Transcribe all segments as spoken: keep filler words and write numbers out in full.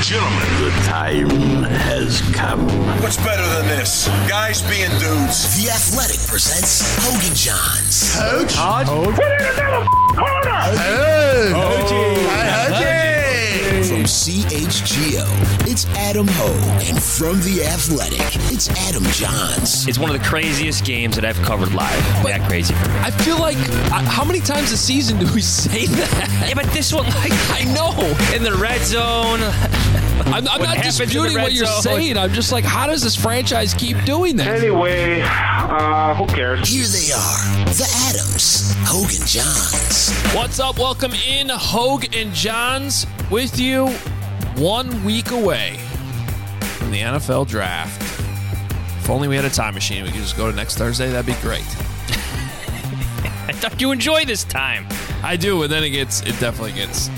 gentlemen, the time has come. What's better than this? Guys being dudes. The Athletic presents Hogan Johns. Coach? Put it in another corner! Hey! Hogan! From C H G O, it's Adam Hogue. And from The Athletic, it's Adam Johns. It's one of the craziest games that I've covered live. But that crazy for me. I feel like, uh, how many times a season do we say that? Yeah, but this one, like, I know. in the red zone. I'm, I'm What not happens in the disputing red what you're zone? saying. I'm just like, how does this franchise keep doing that? Anyway, uh, who cares? Here they are, the Adams, Hogan Johns. What's up? Welcome in, Hogue and Johns, with you one week away from the N F L draft. If only we had a time machine, we could just go to next Thursday. That'd be great. I thought you enjoy this time. I do, and then it gets, it definitely gets.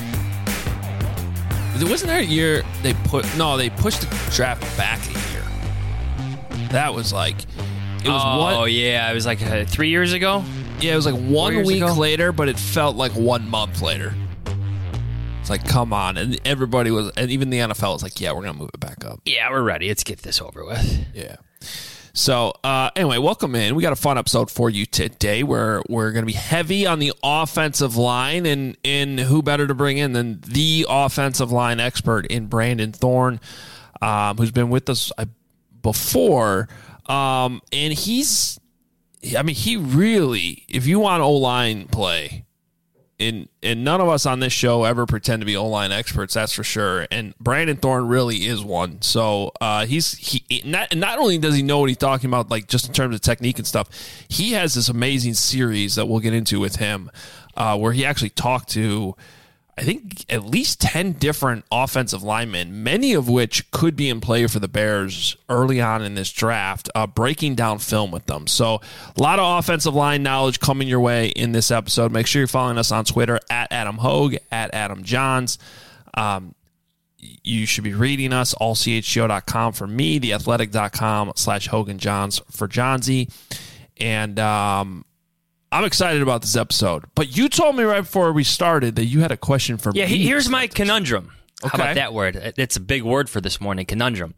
Wasn't there a year they put, no, they pushed the draft back a year. That was like, it was oh, one, yeah. It was like uh, three years ago. yeah, it was like one years week ago? later, but it felt like one month later. It's like, come on. And everybody was, and even the N F L was like, yeah, we're going to move it back up. Yeah, we're ready. Let's get this over with. Yeah. So, uh, anyway, welcome in. We got a fun episode for you today where we're going to be heavy on the offensive line, and, and who better to bring in than the offensive line expert in Brandon Thorn, um, who's been with us uh, before. Um, and he's, I mean, he really, if you want O-line play, and, and none of us on this show ever pretend to be O-line experts, that's for sure. And Brandon Thorn really is one. So uh, he's he not not only does he know what he's talking about, like just in terms of technique and stuff, he has this amazing series that we'll get into with him, uh, where he actually talked to, I think, at least ten different offensive linemen, many of which could be in play for the Bears early on in this draft, uh, breaking down film with them. So a lot of offensive line knowledge coming your way in this episode. Make sure you're following us on Twitter at Adam Hogue, at Adam Johns. Um, you should be reading us, all c h g o dot com for me, the athletic dot com slash Hogan Johns for Johnsy. And, um, I'm excited about this episode, but you told me right before we started that you had a question for Yeah, me. he- here's my conundrum. How Okay. about that word? It's a big word for this morning, conundrum.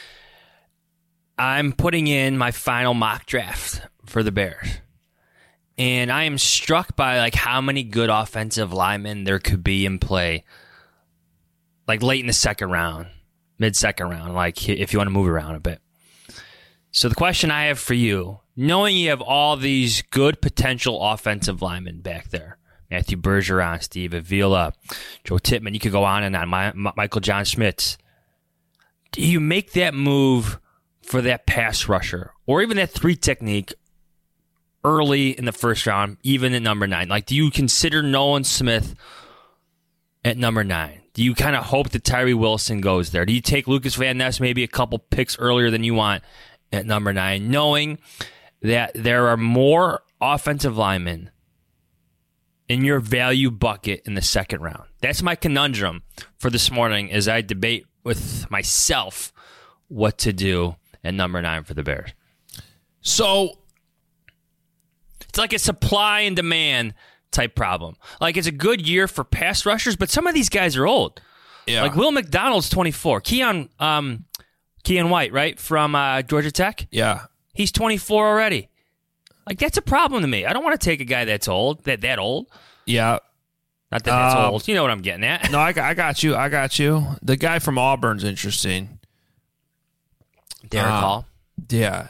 I'm putting in my final mock draft for the Bears, and I am struck by like how many good offensive linemen there could be in play, like late in the second round, mid-second round, like if you want to move around a bit. So the question I have for you, knowing you have all these good potential offensive linemen back there, Matthew Bergeron, Steve Avila, Joe Tippmann, you could go on and on, My, My, Michael John Schmitz. Do you make that move for that pass rusher or even that three technique early in the first round, even at number nine? Like, do you consider Nolan Smith at number nine? Do you kind of hope that Tyree Wilson goes there? Do you take Lucas Van Ness maybe a couple picks earlier than you want at number nine, knowing that there are more offensive linemen in your value bucket in the second round? That's my conundrum for this morning as I debate with myself what to do at number nine for the Bears. So It's like a supply and demand type problem. Like, it's a good year for pass rushers, but some of these guys are old. yeah, Like Will McDonald's twenty-four. Keon, um, Keon White, right, from uh, Georgia Tech? yeah, He's twenty-four already. Like, that's a problem to me. I don't want to take a guy that's old, that that old. yeah. Not that that's Um, old. You know what I'm getting at. No, I, got- I got you. I got you. The guy from Auburn's interesting. Derek uh, Hall. Yeah.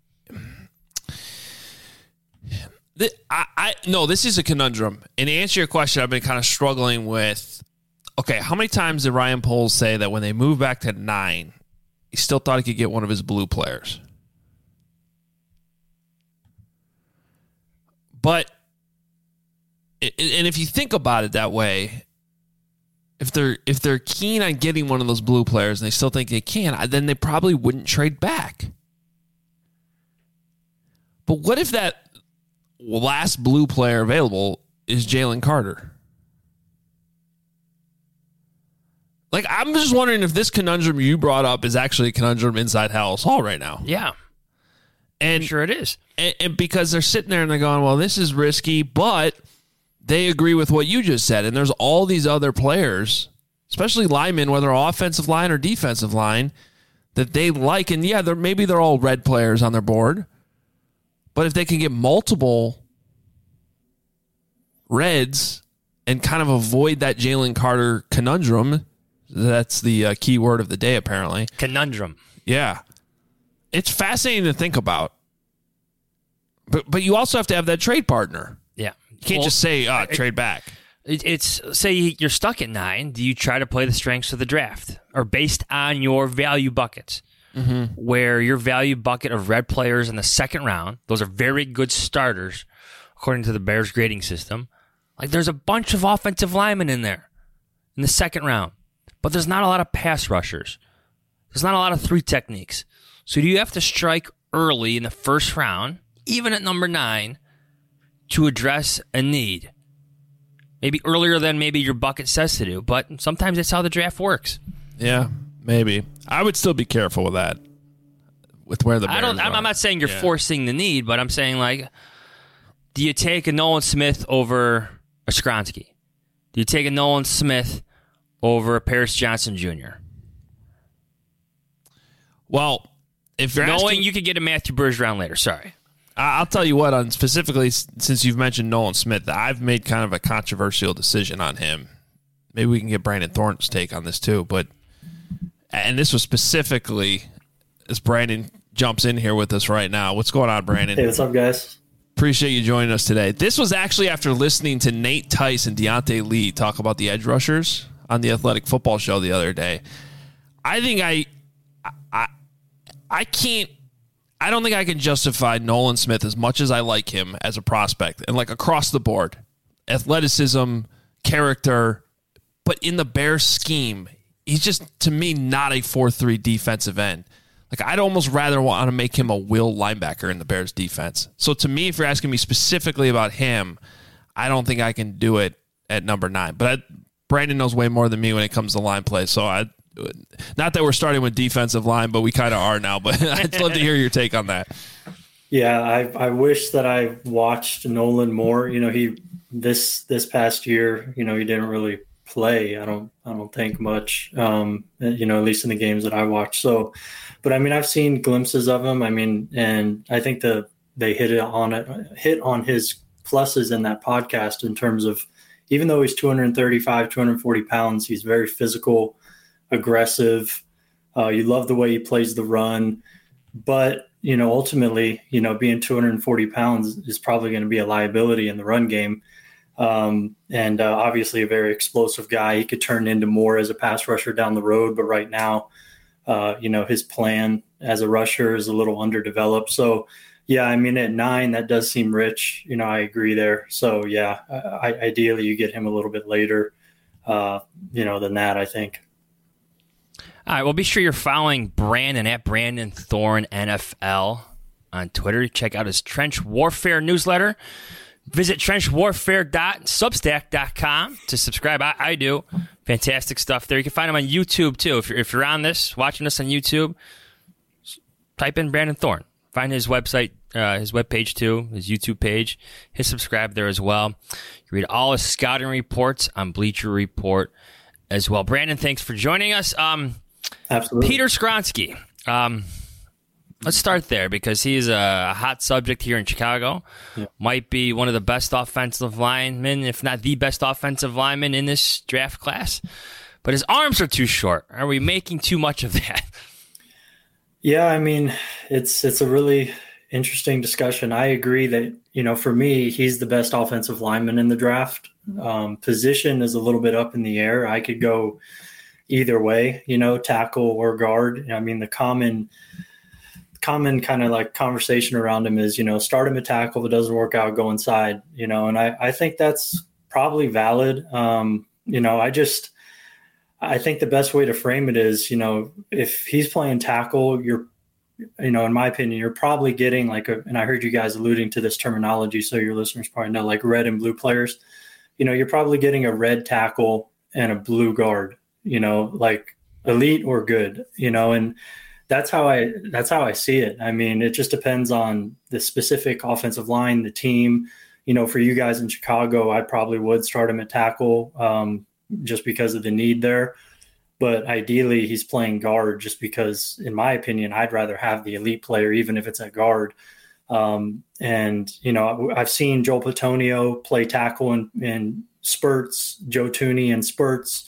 The, I, I no, this is a conundrum. And to answer your question, I've been kind of struggling with. Okay, how many times did Ryan Poles say that when they moved back to nine, he still thought he could get one of his blue players? But, and if you think about it that way, if they're if they're keen on getting one of those blue players and they still think they can, then they probably wouldn't trade back. But what if that last blue player available is Jalen Carter? Like, I'm just wondering if this conundrum you brought up is actually a conundrum inside Halas Hall right now. Yeah. And I'm sure it is. And, and because they're sitting there and they're going, well, this is risky, but they agree with what you just said. And there's all these other players, especially linemen, whether offensive line or defensive line, that they like. And yeah, they're, maybe they're all red players on their board, but if they can get multiple reds and kind of avoid that Jalen Carter conundrum, that's the uh, key word of the day, apparently. Conundrum. Yeah. It's fascinating to think about. But but you also have to have that trade partner. Yeah. You can't Well, just say, oh, it, trade back. It, it's, say you're stuck at nine. Do you try to play the strengths of the draft? Or based on your value buckets? Mm-hmm. Where your value bucket of red players in the second round, those are very good starters, according to the Bears grading system. Like, there's a bunch of offensive linemen in there in the second round. But there's not a lot of pass rushers. There's not a lot of three techniques. So do you have to strike early in the first round, even at number nine, to address a need? Maybe earlier than maybe your bucket says to do, but sometimes that's how the draft works. Yeah, maybe. I would still be careful with that, with where the Bears I don't. I'm, are. I'm not saying you're Yeah. forcing the need, but I'm saying, like, do you take a Nolan Smith over a Skronsky? Do you take a Nolan Smith over a Paris Johnson Junior? Well, if you're Knowing asking, you could get a Matthew Bergeron later. Sorry. I- I'll tell you what, on specifically, s- since you've mentioned Nolan Smith, I've made kind of a controversial decision on him. Maybe we can get Brandon Thornton's take on this too, but, and this was specifically, as Brandon jumps in here with us right now. What's going on, Brandon? Hey, what's up, guys? Appreciate you joining us today. This was actually after listening to Nate Tice and Deontay Lee talk about the edge rushers on the Athletic Football Show the other day. I think I, I, I can't, I don't think I can justify Nolan Smith as much as I like him as a prospect and like across the board, athleticism, character, but in the Bears scheme, he's just, to me, not a four three defensive end. Like, I'd almost rather want to make him a will linebacker in the Bears defense. So to me, if you're asking me specifically about him, I don't think I can do it at number nine. But I, Brandon knows way more than me when it comes to line play. So I, not that we're starting with defensive line, but we kind of are now. But I'd love to hear your take on that. Yeah, I I wish that I watched Nolan more. You know, he this this past year, you know, he didn't really play. I don't I don't think much. Um, you know, at least in the games that I watched. So, but I mean, I've seen glimpses of him. I mean, and I think the they hit it on it hit on his pluses in that podcast in terms of, even though he's two thirty-five, two forty pounds, he's very physical, aggressive. Uh, you love the way he plays the run, but you know, ultimately, you know, being two forty pounds is probably going to be a liability in the run game. Um, and uh, obviously a very explosive guy. He could turn into more as a pass rusher down the road, but right now, uh, you know, his plan as a rusher is a little underdeveloped. So, yeah, I mean, at nine, that does seem rich. You know, I agree there. So, yeah, I, ideally you get him a little bit later, uh, you know, than that, I think. All right, well, be sure you're following Brandon at Brandon Thorne N F L on Twitter. Check out his Trench Warfare newsletter. Visit trench warfare dot substack dot com to subscribe. I, I do. Fantastic stuff there. You can find him on YouTube, too. If you're, if you're on this, watching this on YouTube, type in Brandon Thorne. Find his website, uh, his webpage, too, his YouTube page. Hit subscribe there as well. You read all his scouting reports on Bleacher Report as well. Brandon, thanks for joining us. Um, Absolutely. Peter Skronsky. Um, let's start there because he's a hot subject here in Chicago. Yeah. Might be one of the best offensive linemen, if not the best offensive lineman in this draft class. But his arms are too short. Are we making too much of that? Yeah, I mean, it's it's a really interesting discussion. I agree that, you know, for me, he's the best offensive lineman in the draft. Um, position is a little bit up in the air. I could go either way, you know, tackle or guard. I mean, the common common kind of like conversation around him is, you know, start him at tackle. If it doesn't work out, go inside, you know, and I, I think that's probably valid. Um, you know, I just, I think the best way to frame it is, you know, if he's playing tackle, you're, you know, in my opinion, you're probably getting like a, and I heard you guys alluding to this terminology, so your listeners probably know, like red and blue players, you know, you're probably getting a red tackle and a blue guard, you know, like elite or good, you know, and that's how I, that's how I see it. I mean, it just depends on the specific offensive line, the team. You know, for you guys in Chicago, I probably would start him at tackle. Um, just because of the need there. But ideally, he's playing guard just because, in my opinion, I'd rather have the elite player, even if it's at guard. Um, and, you know, I've seen Joel Bitonio play tackle in, in spurts, Joe Thuney in spurts.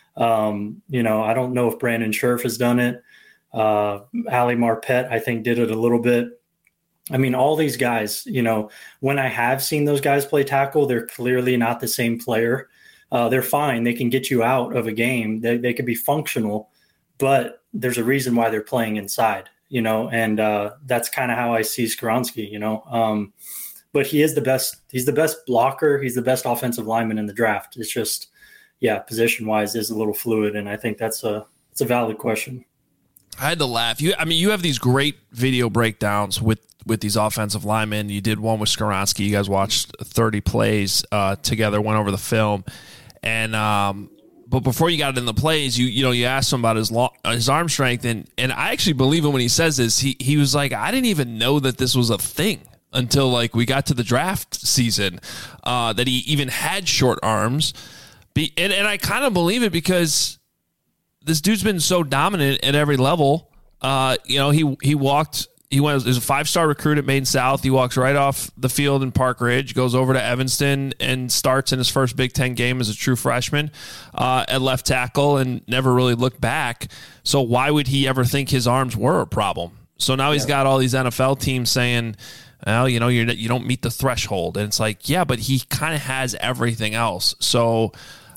Um, you know, I don't know if Brandon Scherf has done it. Uh, Ali Marpet, I think, did it a little bit. I mean, all these guys, you know, when I have seen those guys play tackle, they're clearly not the same player. Uh, they're fine. They can get you out of a game. They, they could be functional, but there's a reason why they're playing inside, you know, and uh, that's kind of how I see Skoronski, you know. Um, but he is the best. He's the best blocker. He's the best offensive lineman in the draft. It's just, yeah, position-wise is a little fluid, and I think that's a it's a valid question. I had to laugh. You, I mean, you have these great video breakdowns with, with these offensive linemen. You did one with Skoronski. You guys watched thirty plays uh, together, went over the film. And um, but before you got in the plays, you you know you asked him about his long, his arm strength, and and I actually believe him when he says this. He he was like, I didn't even know that this was a thing until like we got to the draft season, uh, that he even had short arms. Be, and and I kind of believe it because this dude's been so dominant at every level. Uh, you know, he he walked. He went as a five-star recruit at Maine South. He walks right off the field in Park Ridge, goes over to Evanston, and starts in his first Big Ten game as a true freshman uh, at left tackle and never really looked back. So why would he ever think his arms were a problem? So now he's got all these N F L teams saying, well, you know, you're, you don't meet the threshold. And it's like, yeah, but he kind of has everything else. So,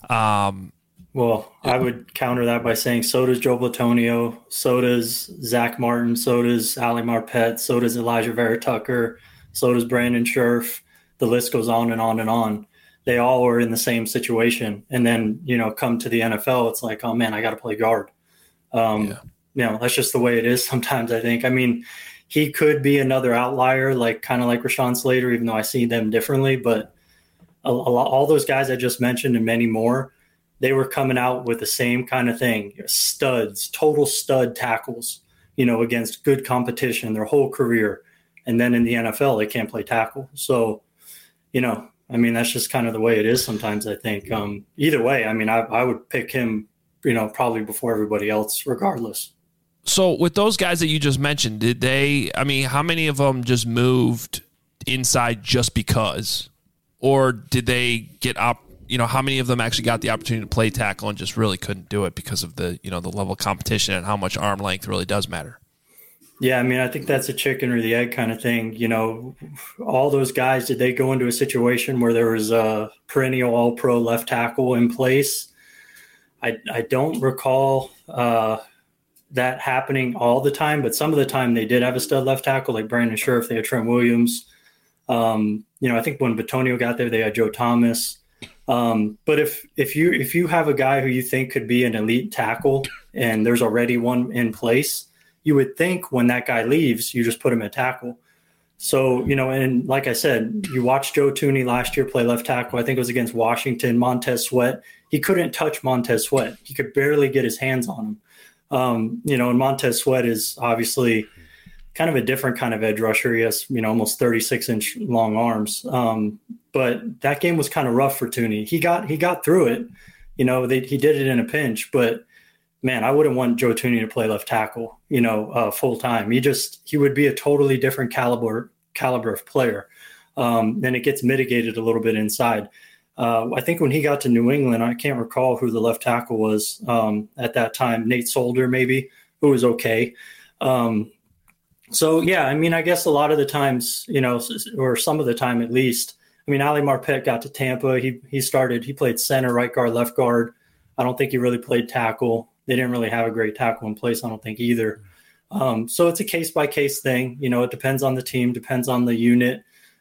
um, well, I would counter that by saying so does Joe Bitonio, so does Zach Martin, so does Ali Marpet, so does Elijah Vera Tucker, so does Brandon Scherf. The list goes on and on and on. They all are in the same situation. And then, you know, come to the N F L, it's like, oh, man, I got to play guard. Um, yeah. You know, that's just the way it is sometimes, I think. I mean, he could be another outlier, like kind of like Rashawn Slater, even though I see them differently. But a, a lot, all those guys I just mentioned and many more, they were coming out with the same kind of thing, studs, total stud tackles, you know, against good competition their whole career. And then in the N F L, they can't play tackle. So, you know, I mean, that's just kind of the way it is sometimes, I think. Um, either way, I mean, I, I would pick him, you know, probably before everybody else, regardless. So with those guys that you just mentioned, did they, I mean, how many of them just moved inside just because? Or did they get up? You know, how many of them actually got the opportunity to play tackle and just really couldn't do it because of the, you know, the level of competition and how much arm length really does matter? Yeah, I mean, I think that's a chicken or the egg kind of thing. You know, all those guys, did they go into a situation where there was a perennial all-pro left tackle in place? I, I don't recall uh, that happening all the time, but some of the time they did have a stud left tackle, like Brandon Scherf. They had Trent Williams. Um, you know, I think when Bitonio got there, they had Joe Thomas. Um, but if, if you, if you have a guy who you think could be an elite tackle and there's already one in place, you would think when that guy leaves, you just put him at tackle. So, you know, and like I said, you watched Joe Thuney last year play left tackle. I think it was against Washington. Montez Sweat, he couldn't touch Montez Sweat. He could barely get his hands on him. Um, you know, and Montez Sweat is obviously kind of a different kind of edge rusher. He has, you know, almost thirty-six inch long arms. Um, but that game was kind of rough for Thuney. He got, he got through it, you know, they, he did it in a pinch, but man, I wouldn't want Joe Thuney to play left tackle, you know, uh, full time. He just, he would be a totally different caliber, caliber of player. Um, and it gets mitigated a little bit inside. Uh, I think when he got to New England, I can't recall who the left tackle was um, at that time, Nate Solder, maybe, who was okay. Um, so, yeah, I mean, I guess a lot of the times, you know, or some of the time at least, I mean, Ali Marpet got to Tampa. He he started, he played center, right guard, left guard. I don't think he really played tackle. They didn't really have a great tackle in place, I don't think either. Um, so it's a case-by-case thing. You know, it depends on the team, depends on the unit.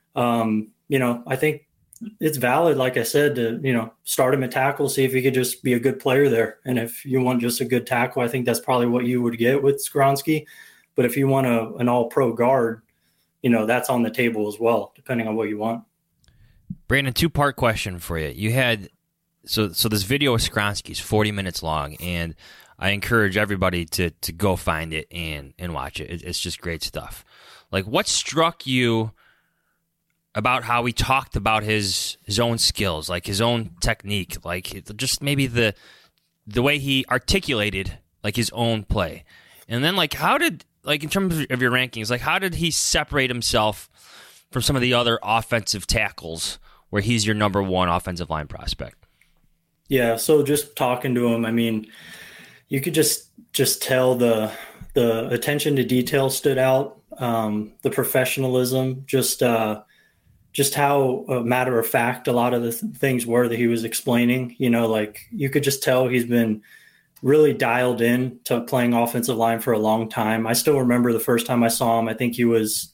Um, you know, I think it's valid, like I said, to, you know, start him at tackle, see if he could just be a good player there. And if you want just a good tackle, I think that's probably what you would get with Skoronski. But if you want a, an all-pro guard, you know, that's on the table as well, depending on what you want. Brandon, two-part question for you. You had so so this video of Skoronski is forty minutes long, and I encourage everybody to to go find it and and watch it. it. It's just great stuff. Like, what struck you about how he talked about his his own skills, like his own technique, like just maybe the the way he articulated like his own play. And then like how did like in terms of your rankings, like how did he separate himself from some of the other offensive tackles where he's your number one offensive line prospect? Yeah, so just talking to him, I mean, you could just just tell the the attention to detail stood out, um, the professionalism, just uh, just how uh, matter of fact a lot of the th- things were that he was explaining. You know, like you could just tell he's been really dialed in to playing offensive line for a long time. I still remember the first time I saw him. I think he was,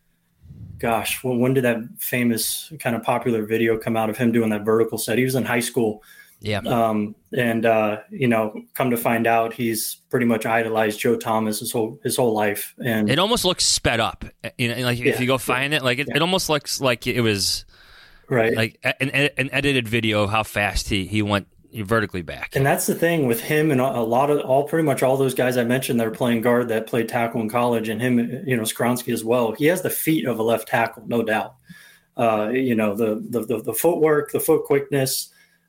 gosh, well, when did that famous kind of popular video come out of him doing that vertical set? He was in high school. Yeah. Um, and, uh, you know, come to find out he's pretty much idolized Joe Thomas his whole, his whole life. And it almost looks sped up. You know, like yeah, if you go find yeah, it, like it, yeah. it almost looks like it was right. like an, an edited video of how fast he, he went vertically back. And that's the thing with him and a lot of all, pretty much all those guys I mentioned that are playing guard that played tackle in college, and him, you know, Skoronski as well. He has the feet of a left tackle, no doubt. Uh, you know, the, the, the, the footwork, the foot quickness,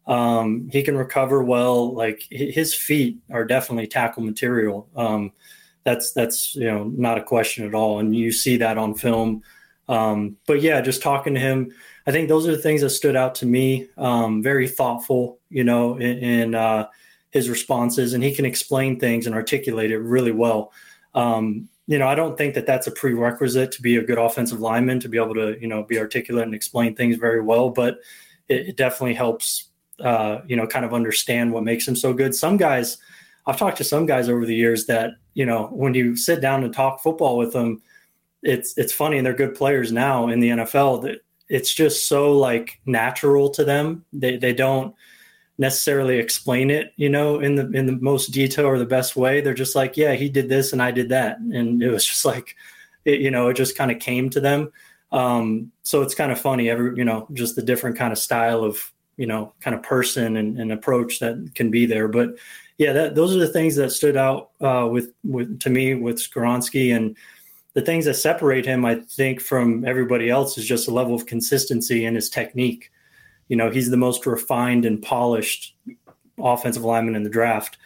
um, he can recover well. Like his feet are definitely tackle material. Um, that's, that's, you know, not a question at all. And you see that on film. Um, but yeah, just talking to him, I think those are the things that stood out to me. Um, very thoughtful, you know, in, in uh, his responses, and he can explain things and articulate it really well. Um, you know, I don't think that that's a prerequisite to be a good offensive lineman, to be able to, you know, be articulate and explain things very well, but it, it definitely helps, uh, you know, kind of understand what makes him so good. Some guys, I've talked to some guys over the years that, you know, when you sit down and talk football with them, it's, it's funny, and they're good players now in the N F L, that it's just so like natural to them. They they don't necessarily explain it, you know, in the in the most detail or the best way. They're just like, yeah, he did this and I did that, and it was just like, it, you know, it just kind of came to them. Um, so it's kind of funny, every you know, just the different kind of style of, you know, kind of person and, and approach that can be there. But yeah, that those are the things that stood out uh, with with to me with Skoronski. And the things that separate him, I think, from everybody else is just a level of consistency in his technique. You know, he's the most refined and polished offensive lineman in the draft.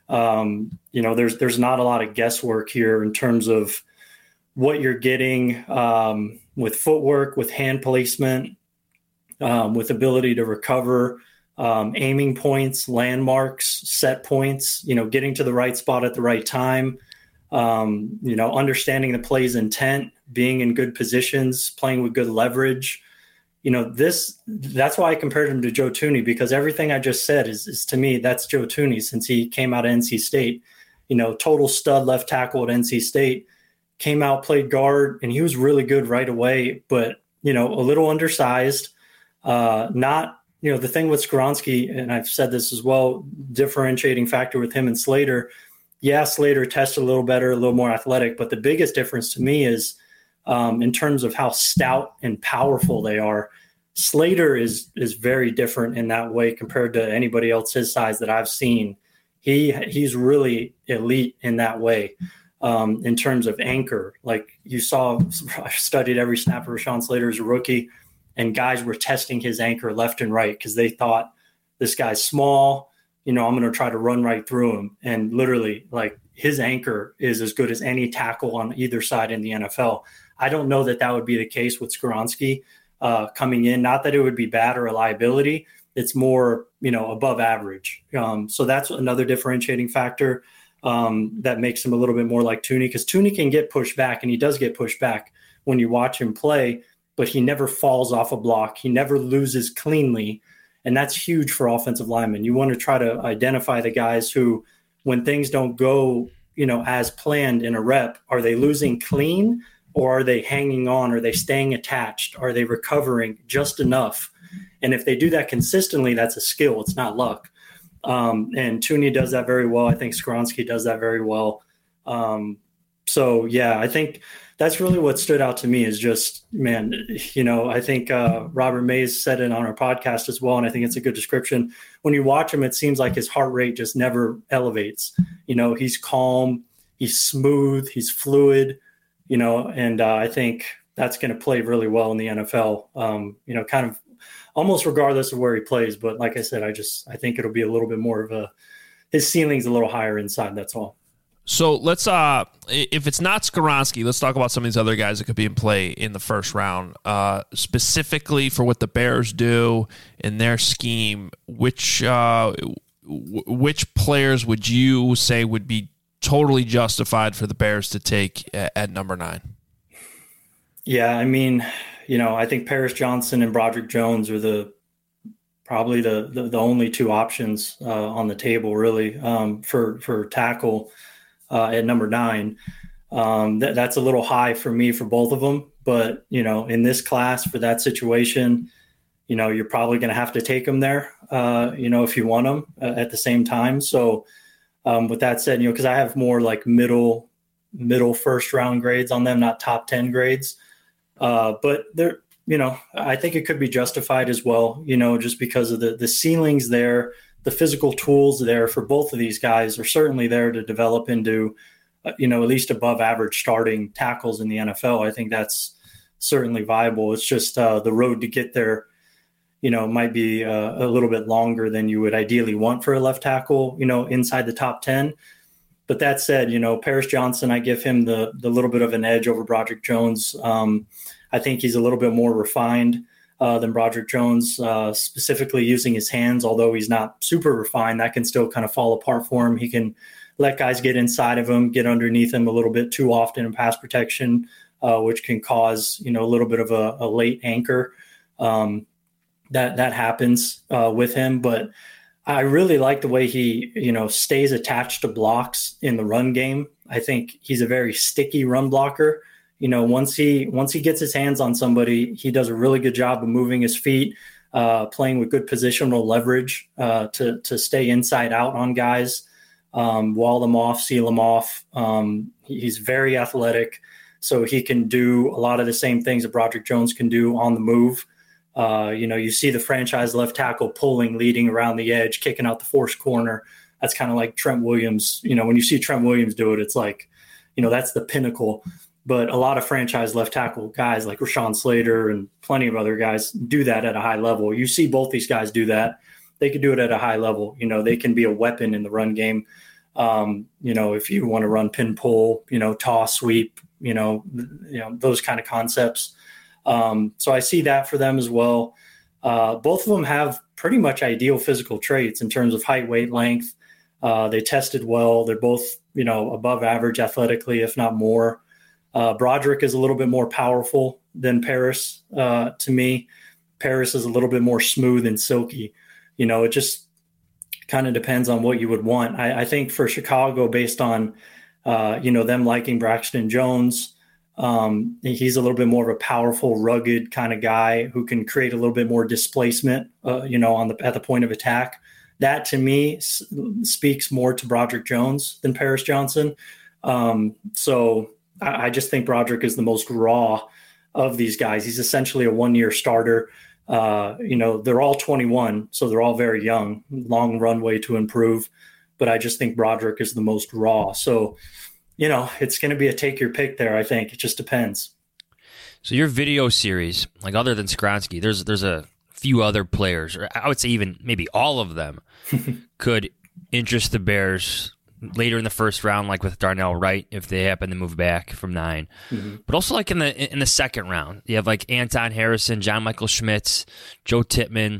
Um, you know, there's there's not a lot of guesswork here in terms of what you're getting um, with footwork, with hand placement, um, with ability to recover, um, aiming points, landmarks, set points, you know, getting to the right spot at the right time. Um, you know, understanding the play's intent, being in good positions, playing with good leverage. You know, this, that's why I compared him to Joe Thuney, because everything I just said is, is to me, that's Joe Thuney since he came out of N C State. You know, total stud left tackle at N C State, came out, played guard, and he was really good right away, but, you know, a little undersized, uh, not, you know, the thing with Skoronski, and I've said this as well, differentiating factor with him and Slater. Yeah, Slater tested a little better, a little more athletic, but the biggest difference to me is um, in terms of how stout and powerful they are. Slater is is very different in that way compared to anybody else his size that I've seen. He he's really elite in that way um, in terms of anchor. Like you saw, I studied every snap of Rashawn Slater as a rookie, and guys were testing his anchor left and right because they thought this guy's small. You know, I'm going to try to run right through him. And literally, like, his anchor is as good as any tackle on either side in the N F L. I don't know that that would be the case with Skoronski uh, coming in. Not that it would be bad or a liability. It's more, you know, above average. Um, so that's another differentiating factor um, that makes him a little bit more like Thuney, because Thuney can get pushed back, and he does get pushed back when you watch him play, but he never falls off a block. He never loses cleanly. And that's huge for offensive linemen. You want to try to identify the guys who, when things don't go, you know, as planned in a rep, are they losing clean, or are they hanging on? Are they staying attached? Are they recovering just enough? And if they do that consistently, that's a skill. It's not luck. Um, and Thuney does that very well. I think Skoronski does that very well. Um, so, yeah, I think that's really what stood out to me is just, man, you know, I think uh, Robert Mays said it on our podcast as well, and I think it's a good description. When you watch him, it seems like his heart rate just never elevates. You know, he's calm, he's smooth, he's fluid, you know, and uh, I think that's going to play really well in the N F L. Um, you know, kind of almost regardless of where he plays. But like I said, I just I think it'll be a little bit more of a his ceiling's a little higher inside. That's all. So let's, uh, if it's not Skoronski, let's talk about some of these other guys that could be in play in the first round. Uh, specifically for what the Bears do in their scheme, which uh, w- which players would you say would be totally justified for the Bears to take at, at number nine? Yeah, I mean, you know, I think Paris Johnson and Broderick Jones are the probably the the, the only two options uh, on the table, really, um, for for tackle. Uh, at number nine, um, th- that's a little high for me for both of them. But, you know, in this class for that situation, you know, you're probably going to have to take them there, uh, you know, if you want them uh, at the same time. So um, with that said, you know, because I have more like middle, middle first round grades on them, not top ten grades. Uh, but they're, you know, I think it could be justified as well, you know, just because of the, the ceilings there. The physical tools there for both of these guys are certainly there to develop into, uh, you know, at least above average starting tackles in the N F L. I think that's certainly viable. It's just uh, the road to get there, you know, might be uh, a little bit longer than you would ideally want for a left tackle, you know, inside the top ten. But that said, you know, Paris Johnson, I give him the the little bit of an edge over Broderick Jones. Um, I think he's a little bit more refined Uh, than Broderick Jones, uh, specifically using his hands. Although he's not super refined, that can still kind of fall apart for him. He can let guys get inside of him, get underneath him a little bit too often in pass protection, uh, which can cause, you know, a little bit of a, a late anchor. Um, that that happens uh, with him. But I really like the way he, you know, stays attached to blocks in the run game. I think he's a very sticky run blocker. You know, once he once he gets his hands on somebody, he does a really good job of moving his feet, uh, playing with good positional leverage uh, to to stay inside out on guys, um, wall them off, seal them off. Um, he's very athletic, so he can do a lot of the same things that Broderick Jones can do on the move. Uh, you know, you see the franchise left tackle pulling, leading around the edge, kicking out the forced corner. That's kind of like Trent Williams. You know, when you see Trent Williams do it, it's like, you know, that's the pinnacle. But a lot of franchise left tackle guys like Rashawn Slater and plenty of other guys do that at a high level. You see both these guys do that. They can do it at a high level. You know, they can be a weapon in the run game. Um, you know, if you want to run pin pull, you know, toss, sweep, you know, you know, those kind of concepts. Um, so I see that for them as well. Uh, both of them have pretty much ideal physical traits in terms of height, weight, length. Uh, they tested well. They're both, you know, above average athletically, if not more. Uh, Broderick is a little bit more powerful than Paris uh, to me. Paris is a little bit more smooth and silky. You know, it just kind of depends on what you would want. I, I think for Chicago, based on, uh, you know, them liking Braxton Jones, um, he's a little bit more of a powerful, rugged kind of guy who can create a little bit more displacement, uh, you know, on the at the point of attack. That to me s- speaks more to Broderick Jones than Paris Johnson. Um, so I just think Broderick is the most raw of these guys. He's essentially a one-year starter. Uh, you know, they're all twenty-one, so they're all very young, long runway to improve. But I just think Broderick is the most raw. So, you know, it's going to be a take your pick there, I think. It just depends. So your video series, like other than Skoronski, there's there's a few other players, or I would say even maybe all of them, could interest the Bears later in the first round, like with Darnell Wright, if they happen to move back from nine. Mm-hmm. But also like in the in the second round, you have like Anton Harrison, John Michael Schmitz, Joe Tippmann.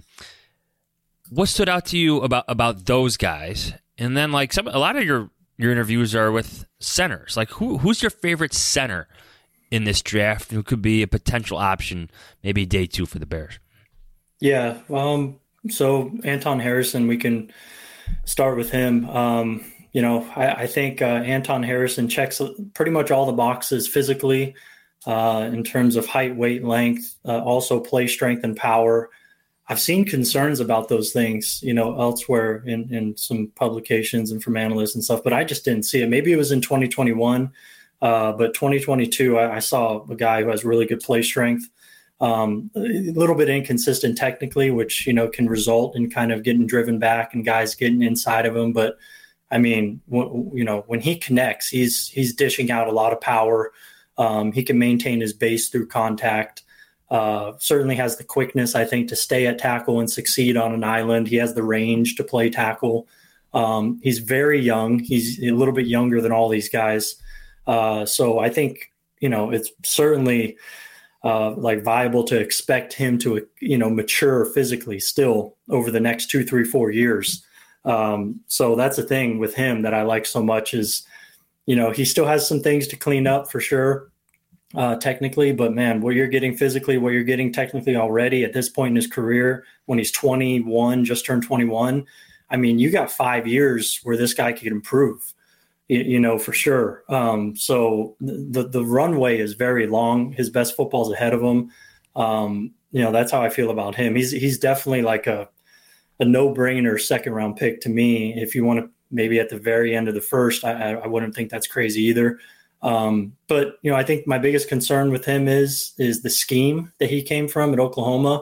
What stood out to you about, about those guys? And then like some a lot of your, your interviews are with centers. Like who who's your favorite center in this draft who could be a potential option maybe day two for the Bears? Yeah, um, so Anton Harrison, we can start with him. Um, You know, I, I think uh, Anton Harrison checks pretty much all the boxes physically uh, in terms of height, weight, length, uh, also play strength and power. I've seen concerns about those things, you know, elsewhere in, in some publications and from analysts and stuff, but I just didn't see it. Maybe it was in twenty twenty-one, uh, but twenty twenty-two, I, I saw a guy who has really good play strength, um, a little bit inconsistent technically, which, you know, can result in kind of getting driven back and guys getting inside of him. But I mean, w- you know, when he connects, he's he's dishing out a lot of power. Um, he can maintain his base through contact. Uh, certainly has the quickness, I think, to stay at tackle and succeed on an island. He has the range to play tackle. Um, he's very young. He's a little bit younger than all these guys. Uh, so I think, you know, it's certainly uh, like viable to expect him to, you know, mature physically still over the next two, three, four years. Um, so that's the thing with him that I like so much is, you know, he still has some things to clean up for sure. Uh, technically, but man, what you're getting physically, what you're getting technically already at this point in his career, when he's twenty-one, just turned twenty-one, I mean, you got five years where this guy could improve, you, you know, for sure. Um, so the the runway is very long. His best football's ahead of him. Um, you know, that's how I feel about him. He's he's definitely like a a no-brainer second round pick to me. If you want to maybe at the very end of the first, I, I wouldn't think that's crazy either. Um, but, you know, I think my biggest concern with him is, is the scheme that he came from at Oklahoma.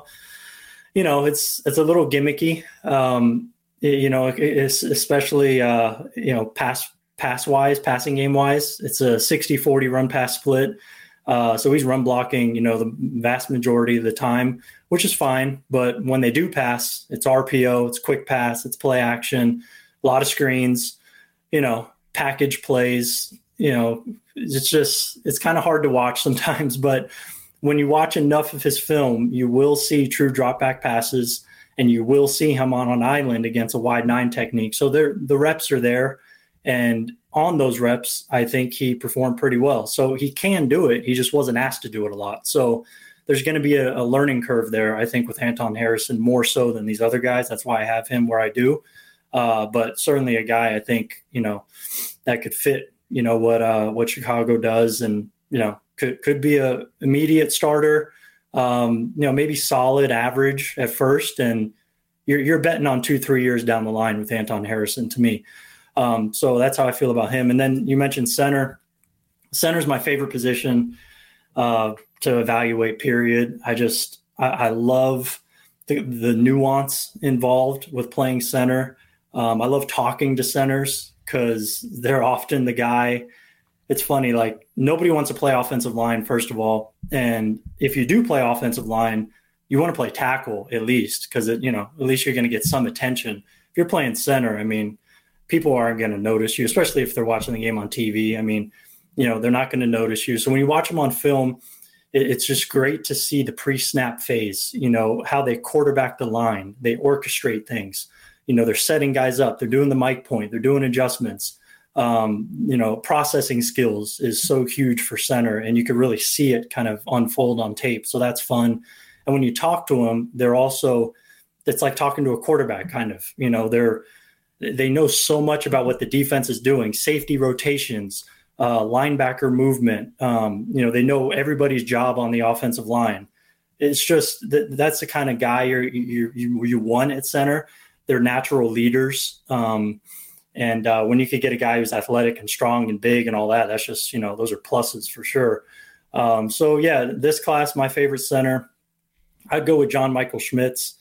You know, it's, it's a little gimmicky, um, it, you know, it's especially, uh, you know, pass, pass wise, passing game wise, it's a sixty forty run pass split. Uh, so he's run blocking, you know, the vast majority of the time, which is fine. But when they do pass, it's R P O, it's quick pass, it's play action, a lot of screens, you know, package plays, you know, it's just, it's kind of hard to watch sometimes, but when you watch enough of his film, you will see true drop back passes and you will see him on an island against a wide nine technique. So there, the reps are there. And on those reps, I think he performed pretty well. So he can do it. He just wasn't asked to do it a lot. So there's going to be a, a learning curve there, I think, with Anton Harrison more so than these other guys. That's why I have him where I do. Uh, but certainly a guy I think, you know, that could fit, you know, what, uh, what Chicago does and, you know, could, could be a immediate starter, um, you know, maybe solid average at first. And you're, you're betting on two, three years down the line with Anton Harrison to me. Um, so that's how I feel about him. And then you mentioned center. Center is my favorite position uh, to evaluate, period. I just, I, I love the, the nuance involved with playing center. Um, I love talking to centers because they're often the guy. It's funny, like nobody wants to play offensive line, first of all. And if you do play offensive line, you want to play tackle at least because, you know, at least you're going to get some attention. If you're playing center, I mean, people aren't going to notice you, especially if they're watching the game on T V. I mean, you know, they're not going to notice you. So when you watch them on film, it, it's just great to see the pre-snap phase, you know, how they quarterback the line, they orchestrate things. You know, they're setting guys up. They're doing the mic point. They're doing adjustments. Um, you know, processing skills is so huge for center, and you can really see it kind of unfold on tape. So that's fun. And when you talk to them, they're also, it's like talking to a quarterback kind of, you know, they're, they know so much about what the defense is doing, safety rotations, uh, linebacker movement. Um, you know, they know everybody's job on the offensive line. It's just that that's the kind of guy you're, you you you want at center. They're natural leaders. Um, and uh, when you could get a guy who's athletic and strong and big and all that, that's just, you know, those are pluses for sure. Um, so, yeah, this class, my favorite center, I'd go with John Michael Schmitz,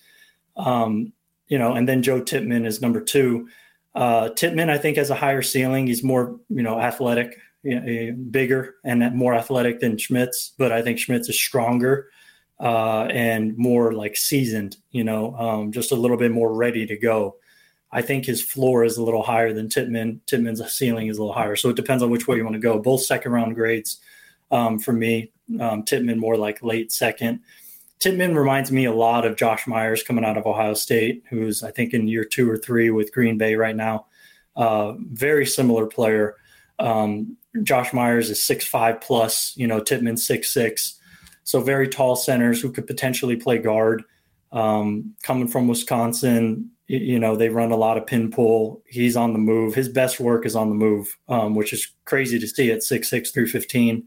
um, you know, and then Joe Tippmann is number two. Uh, Tippmann, I think, has a higher ceiling. He's more, you know, athletic, you know, bigger and more athletic than Schmitz, but I think Schmitz is stronger. Uh, and more like seasoned, you know, um, just a little bit more ready to go. I think his floor is a little higher than Tippmann. Tippmann's ceiling is a little higher. So it depends on which way you want to go. Both second round grades um, for me. Um, Tippmann more like late second. Tippmann reminds me a lot of Josh Myers coming out of Ohio State, who's I think in year two or three with Green Bay right now. Uh, very similar player. Um, Josh Myers is six five plus, you know, Tippmann six six. So very tall centers who could potentially play guard. Um, coming from Wisconsin, you know, they run a lot of pin pull. He's on the move. His best work is on the move, um, which is crazy to see at six six, three fifteen.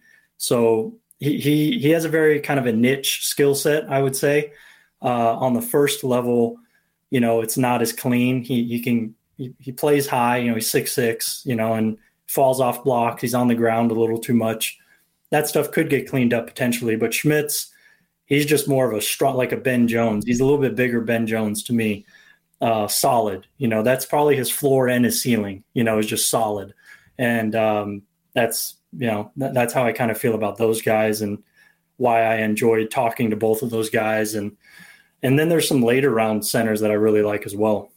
So he, he, he has a very kind of a niche skill set, I would say. Uh, on the first level, you know, it's not as clean. He, he can, he, he plays high, you know, he's six six, you know, and falls off blocks. He's on the ground a little too much. That stuff could get cleaned up potentially, but Schmitz, he's just more of a strong, like a Ben Jones. He's a little bit bigger Ben Jones to me. Uh, solid, you know, that's probably his floor and his ceiling, you know, is just solid. And, um, that's, you know, that, that's how I kind of feel about those guys and why I enjoyed talking to both of those guys. And, and then there's some later round centers that I really like as well.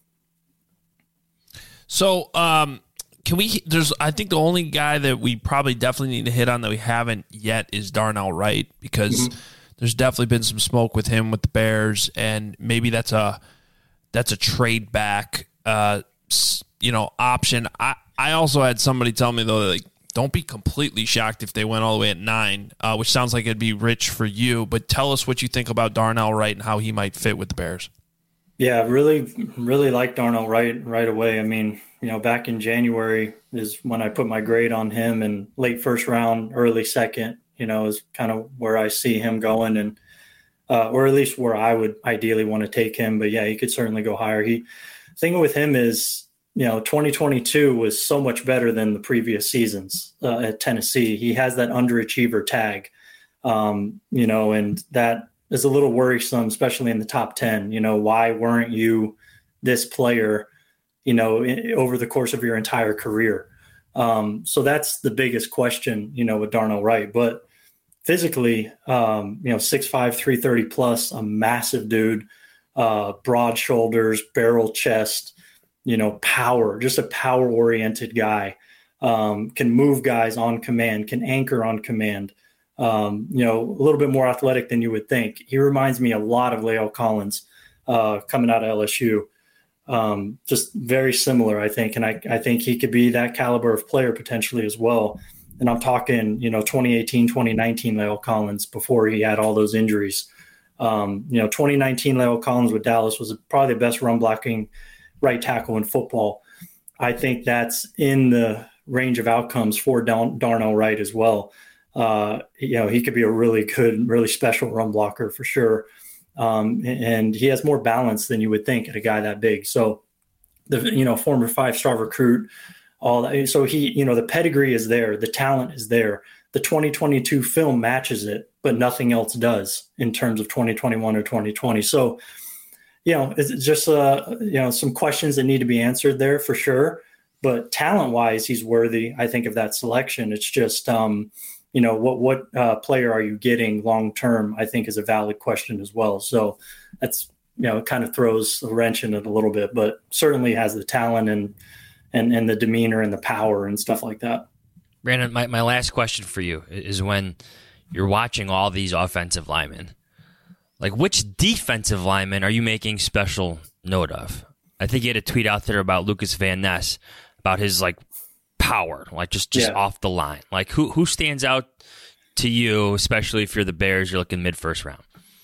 So, um, can we, there's, I think the only guy that we probably definitely need to hit on that we haven't yet is Darnell Wright, because mm-hmm. there's definitely been some smoke with him with the Bears, and maybe that's a, that's a trade back, uh, you know, option. I, I also had somebody tell me though, like, don't be completely shocked if they went all the way at nine, uh, which sounds like it'd be rich for you, but tell us what you think about Darnell Wright and how he might fit with the Bears. Yeah, really, really like Darnell Wright right away. I mean, you know, back in January is when I put my grade on him, and late first round, early second, you know, is kind of where I see him going, and uh, or at least where I would ideally want to take him. But yeah, he could certainly go higher. He thing with him is, you know, twenty twenty-two was so much better than the previous seasons uh, at Tennessee. He has that underachiever tag, um, you know, and that is a little worrisome, especially in the top ten. You know, why weren't you this player, you know, in, over the course of your entire career? Um, so that's the biggest question, you know, with Darnell Wright. But physically, um, you know, six five, three thirty plus, a massive dude, uh, broad shoulders, barrel chest, you know, power, just a power-oriented guy, um, can move guys on command, can anchor on command. Um, you know, a little bit more athletic than you would think. He reminds me a lot of La'el Collins uh, coming out of L S U. Um, just very similar, I think. And I, I think he could be that caliber of player potentially as well. And I'm talking, you know, twenty eighteen, twenty nineteen La'el Collins before he had all those injuries. Um, you know, twenty nineteen La'el Collins with Dallas was probably the best run blocking right tackle in football. I think that's in the range of outcomes for Dar- Darnell Wright as well. Uh, you know, he could be a really good, really special run blocker for sure. Um, and he has more balance than you would think at a guy that big. So the, you know, former five-star recruit, all that. So he, you know, the pedigree is there. The talent is there. The twenty twenty-two film matches it, but nothing else does in terms of twenty twenty-one or twenty twenty. So, you know, it's just, uh, you know, some questions that need to be answered there for sure. But talent-wise, he's worthy, I think, of that selection. It's just, um, you know, what what uh, player are you getting long-term, I think is a valid question as well. So that's, you know, it kind of throws a wrench in it a little bit, but certainly has the talent and and, and the demeanor and the power and stuff like that. Brandon, my, my last question for you is, when you're watching all these offensive linemen, like, which defensive linemen are you making special note of? I think you had a tweet out there about Lucas Van Ness, about his, like, power, like just, just yeah. off the line. Like, who who stands out to you, especially if you're the Bears, you're looking mid-first round?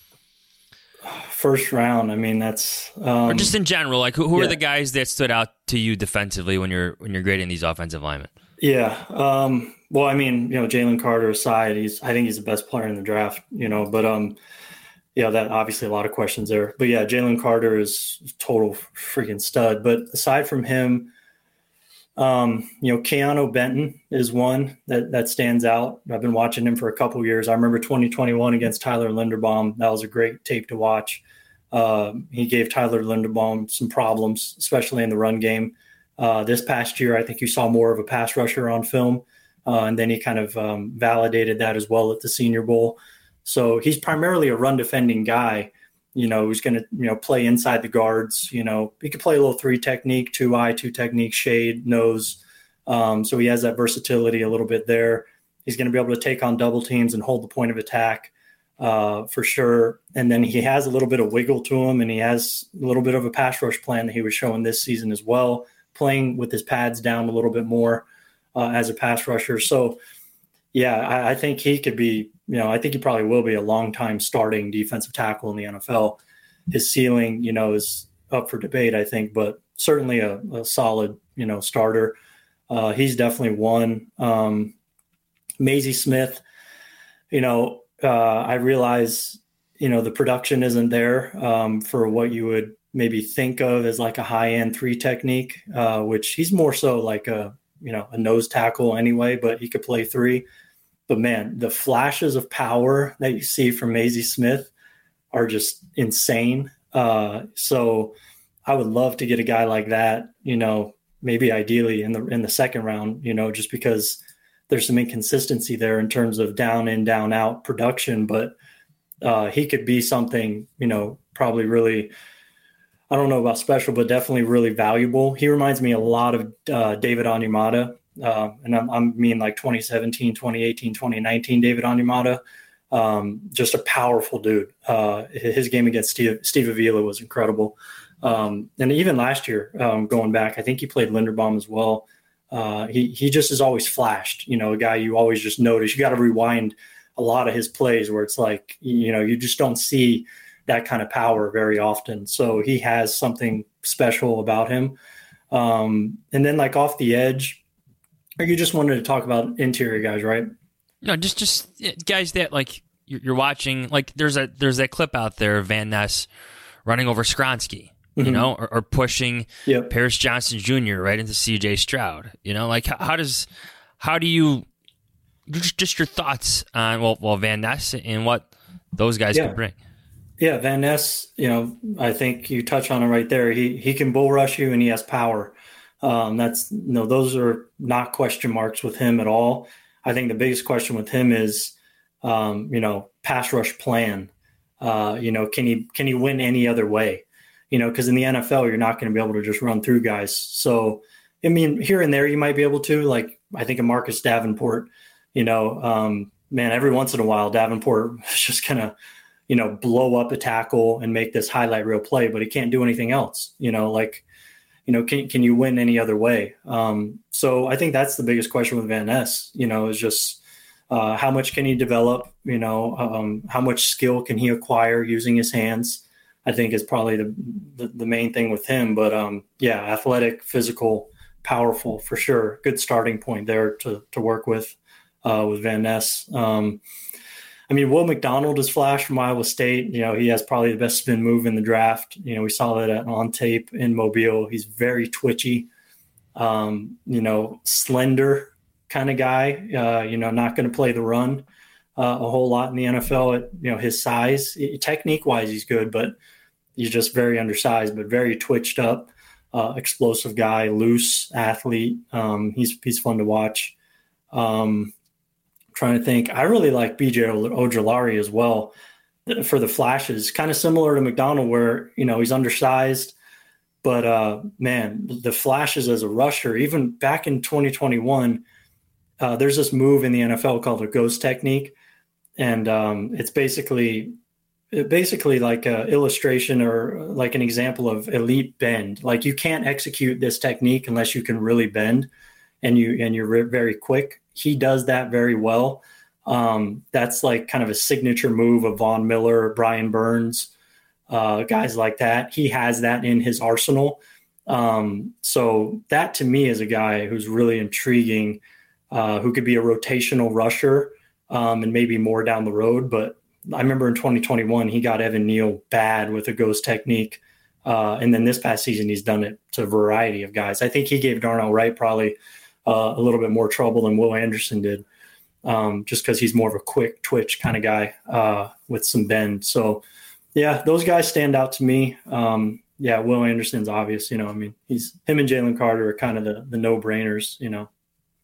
First round, I mean, that's... Um, or just in general, like, who, who yeah. are the guys that stood out to you defensively when you're when you're grading these offensive linemen? Yeah. Um, well, I mean, you know, Jalen Carter aside, he's I think he's the best player in the draft, you know, but um, yeah, that obviously a lot of questions there. But yeah, Jalen Carter is total freaking stud. But aside from him, um, you know, Keanu Benton is one that, that stands out. I've been watching him for a couple of years. I remember twenty twenty-one against Tyler Linderbaum. That was a great tape to watch. Uh, he gave Tyler Linderbaum some problems, especially in the run game. Uh, this past year, I think you saw more of a pass rusher on film, uh, and then he kind of um, validated that as well at the Senior Bowl. So he's primarily a run defending guy, you know, who's going to, you know, play inside the guards. You know, he could play a little three technique, two eye, two technique, shade, nose. Um, so he has that versatility a little bit there. He's going to be able to take on double teams and hold the point of attack uh, for sure. And then he has a little bit of wiggle to him, and he has a little bit of a pass rush plan that he was showing this season as well, playing with his pads down a little bit more uh, as a pass rusher. So, yeah, I, I think he could be, you know, I think he probably will be a long-time starting defensive tackle in the N F L. His ceiling, you know, is up for debate, I think, but certainly a, a solid, you know, starter. Uh, he's definitely one. Um, Mazie Smith, you know, uh, I realize, you know, the production isn't there um, for what you would maybe think of as like a high-end three technique, uh, which he's more so like a, you know, a nose tackle anyway, but he could play three. But man, the flashes of power that you see from Mazie Smith are just insane. Uh, so I would love to get a guy like that, you know, maybe ideally in the, in the second round, you know, just because there's some inconsistency there in terms of down in, down out production, but uh, he could be something, you know, probably really, I don't know about special, but definitely really valuable. He reminds me a lot of uh, David Onyemata, uh, and I'm, I mean like twenty seventeen, twenty eighteen, twenty nineteen David Onyemata. Um, just a powerful dude. Uh, his game against Steve, Steve Avila was incredible. Um, and even last year, um, going back, I think he played Linderbaum as well. Uh, he he just has always flashed, you know, a guy you always just notice. You got to rewind a lot of his plays where it's like, you know, you just don't see that kind of power very often. So he has something special about him. Um, and then like off the edge, or you just wanted to talk about interior guys, right? No, just just guys that like you're, you're watching. Like there's a there's that clip out there of Van Ness running over Skronsky, you mm-hmm. know, or, or pushing yep. Paris Johnson Junior right into C J Stroud. You know, like how, how does how do you just, just your thoughts on well, well Van Ness and what those guys yeah. can bring? Yeah, Van Ness. You know, I think you touch on it right there. He he can bull rush you and he has power. Um, that's you know those are not question marks with him at all. I think the biggest question with him is, um, you know, pass rush plan. Uh, you know, can he can he win any other way? You know, because in the N F L, you're not going to be able to just run through guys. So, I mean, here and there, you might be able to. Like, I think of Marcus Davenport. You know, um, man, every once in a while, Davenport is just going to, you know, blow up a tackle and make this highlight reel play, but he can't do anything else. You know, like, you know, can can you win any other way? Um, so I think that's the biggest question with Van Ness, you know, is just uh, how much can he develop, you know, um, how much skill can he acquire using his hands, I think is probably the the, the main thing with him. But, um, yeah, athletic, physical, powerful for sure. Good starting point there to to work with uh, with Van Ness. Um I mean, Will McDonald is flash from Iowa State. You know, he has probably the best spin move in the draft. You know, we saw that on tape in Mobile. He's very twitchy, um, you know, slender kind of guy, uh, you know, not going to play the run uh, a whole lot in the N F L at, you know, his size. Technique-wise, he's good, but he's just very undersized, but very twitched up, uh, explosive guy, loose athlete. Um, he's he's fun to watch. Um Trying to think, I really like B J Ojulari as well for the flashes, kind of similar to McDonald where, you know, he's undersized, but uh, man, the flashes as a rusher, even back in twenty twenty-one, uh, there's this move in the N F L called a ghost technique. And um, it's basically, basically like an illustration or like an example of elite bend. Like you can't execute this technique unless you can really bend and you, and you're very quick. He does that very well. Um, that's like kind of a signature move of Von Miller, Brian Burns, uh, guys like that. He has that in his arsenal. Um, so that to me is a guy who's really intriguing, uh, who could be a rotational rusher um, and maybe more down the road. But I remember in twenty twenty-one, he got Evan Neal bad with a ghost technique. Uh, and then this past season, he's done it to a variety of guys. I think he gave Darnell Wright probably Uh, a little bit more trouble than Will Anderson did, um, just because he's more of a quick twitch kind of guy uh, with some bend. So, yeah, those guys stand out to me. Um, yeah, Will Anderson's obvious. You know, I mean, he's him and Jalen Carter are kind of the, the no-brainers, you know.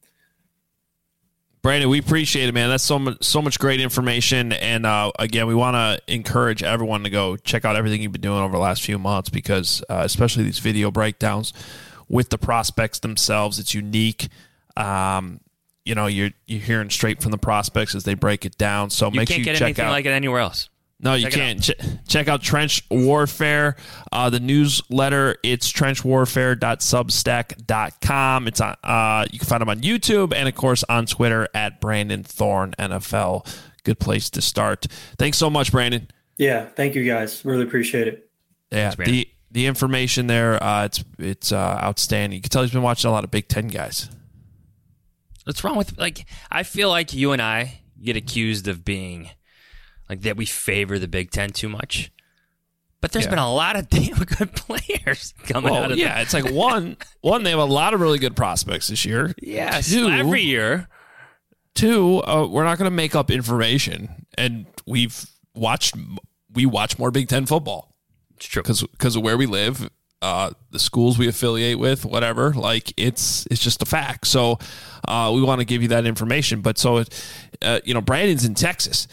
Brandon, we appreciate it, man. That's so much, so much great information. And, uh, again, we want to encourage everyone to go check out everything you've been doing over the last few months because uh, especially these video breakdowns with the prospects themselves, it's unique. Um, you know, you're you're hearing straight from the prospects as they break it down. So you make can't sure you get check anything out. like it anywhere else. No, you check can't. Ch- check out Trench Warfare, uh, the newsletter. It's trench warfare dot substack dot com. It's on. Uh, you can find them on YouTube and of course on Twitter at Brandon Thorn N F L. Good place to start. Thanks so much, Brandon. Yeah, thank you guys. Really appreciate it. Yeah, Thanks, the the information there, uh, it's it's uh, outstanding. You can tell he's been watching a lot of Big Ten guys. What's wrong with like? I feel like you and I get accused of being like that. We favor the Big Ten too much, but there's yeah. been a lot of damn good players coming well, out of yeah. the- It's like one one they have a lot of really good prospects this year. Yeah, two, every year. Two, uh, we're not going to make up information, and we've watched we watch more Big Ten football. It's true because because of where we live. uh, the schools we affiliate with, whatever. Like it's it's just a fact. So uh, we want to give you that information. But so uh, you know, Brandon's in Texas.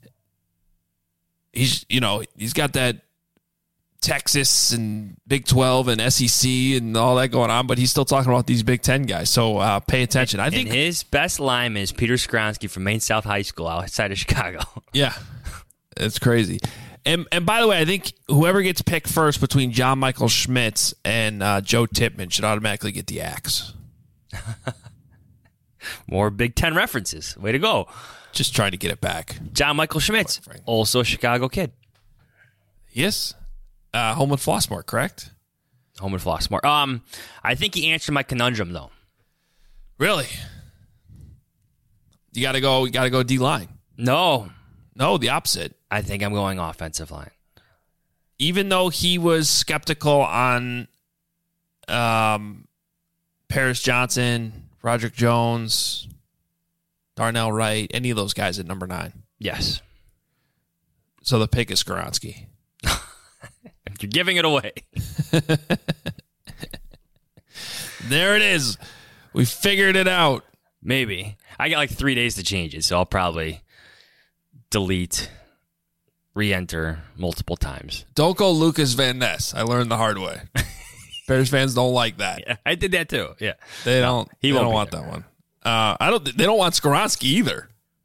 He's you know he's got that Texas and Big twelve and S E C and all that going on, but he's still talking about these Big Ten guys. So uh, pay attention. I think and his best lineman is Peter Skronsky from Maine South High School outside of Chicago. Yeah, it's crazy. And and by the way, I think whoever gets picked first between John Michael Schmitz and uh, Joe Tippmann should automatically get the axe. More Big Ten references. Way to go. Just trying to get it back. John Michael Schmitz, also a Chicago kid. Yes. Uh, home with Flossmoor, correct? Home with Flossmoor. Um, I think he answered my conundrum, though. Really? You got to go. You got to go D line. No, no, the opposite. I think I'm going offensive line. Even though he was skeptical on um, Paris Johnson, Roderick Jones, Darnell Wright, any of those guys at number nine. Yes. So the pick is Skronsky. You're giving it away. There it is. We figured it out. Maybe. I got like three days to change it, so I'll probably delete, re-enter multiple times. Don't go Lucas Van Ness. I learned the hard way. Bears fans don't like that. Yeah, I did that too. Yeah, they don't. No, he they won't don't want there. that one. Uh, I don't. They don't want Skronsky either.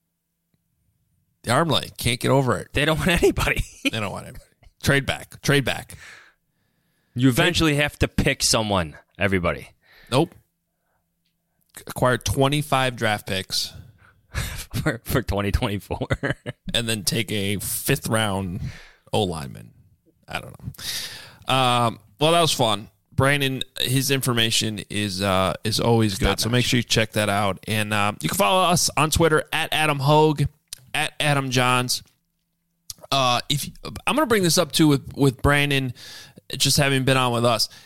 The arm leg can't get over it. They don't want anybody. They don't want anybody. Trade back. Trade back. You eventually Trade. have to pick someone. Everybody. Nope. Acquire twenty-five draft picks for, for twenty twenty-four. And then take a fifth round O lineman. I don't know. Um, well, that was fun. Brandon, his information is uh, is always good, so make sure you check that out. And uh, you can follow us on Twitter at Adam Hogue, at Adam Johns. Uh, if I'm going to bring this up too with with Brandon, just having been on with us,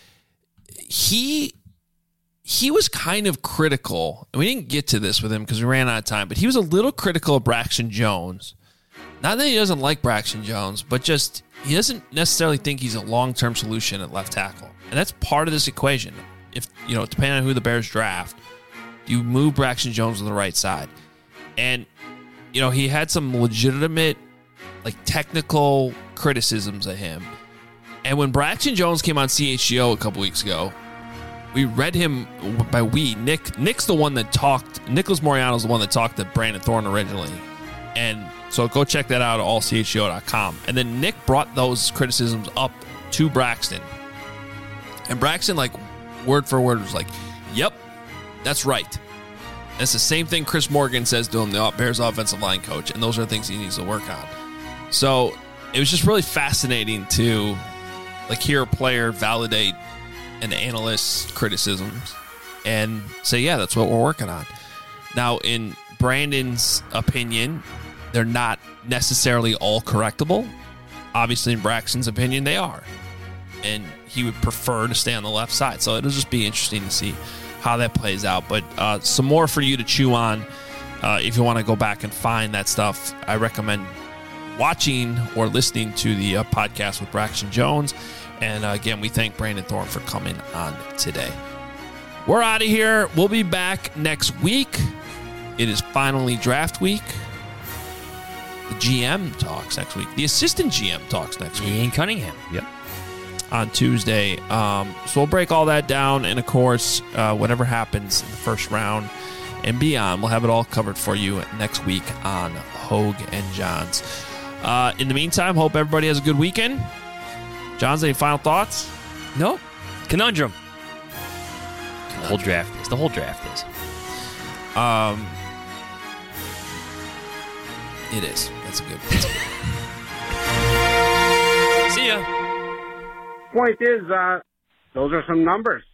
he he was kind of critical. And we didn't get to this with him because we ran out of time, but he was a little critical of Braxton Jones. Not that he doesn't like Braxton Jones, but just he doesn't necessarily think he's a long-term solution at left tackle. And that's part of this equation. If, you know, depending on who the Bears draft, you move Braxton Jones to the right side. And, you know, he had some legitimate, like, technical criticisms of him. And when Braxton Jones came on C H G O a couple weeks ago, we read him by we. Nick, Nick's the one that talked. Nicholas Moriano's the one that talked to Brandon Thorne originally. And so go check that out at all C H G O dot com. And then Nick brought those criticisms up to Braxton. And Braxton, like, word for word, was like, yep, that's right. And it's the same thing Chris Morgan says to him, the Bears offensive line coach, and those are the things he needs to work on. So it was just really fascinating to, like, hear a player validate an analyst's criticisms and say, yeah, that's what we're working on. Now, in Brandon's opinion, they're not necessarily all correctable. Obviously, in Braxton's opinion, they are. And he would prefer to stay on the left side. So it'll just be interesting to see how that plays out. But uh, some more for you to chew on uh, if you want to go back and find that stuff. I recommend watching or listening to the uh, podcast with Braxton Jones. And uh, again, we thank Brandon Thorne for coming on today. We're out of here. We'll be back next week. It is finally draft week. The G M talks next week. The assistant G M talks next week. Ian Cunningham. Yep. On Tuesday. Um, so we'll break all that down. And, of course, uh, whatever happens in the first round and beyond, we'll have it all covered for you next week on Hogue and Johns. Uh, in the meantime, hope everybody has a good weekend. Johns, any final thoughts? No. Conundrum. The whole draft is. The whole draft is. Um, it is. That's a good. That's a good. See ya. Point is, uh, those are some numbers.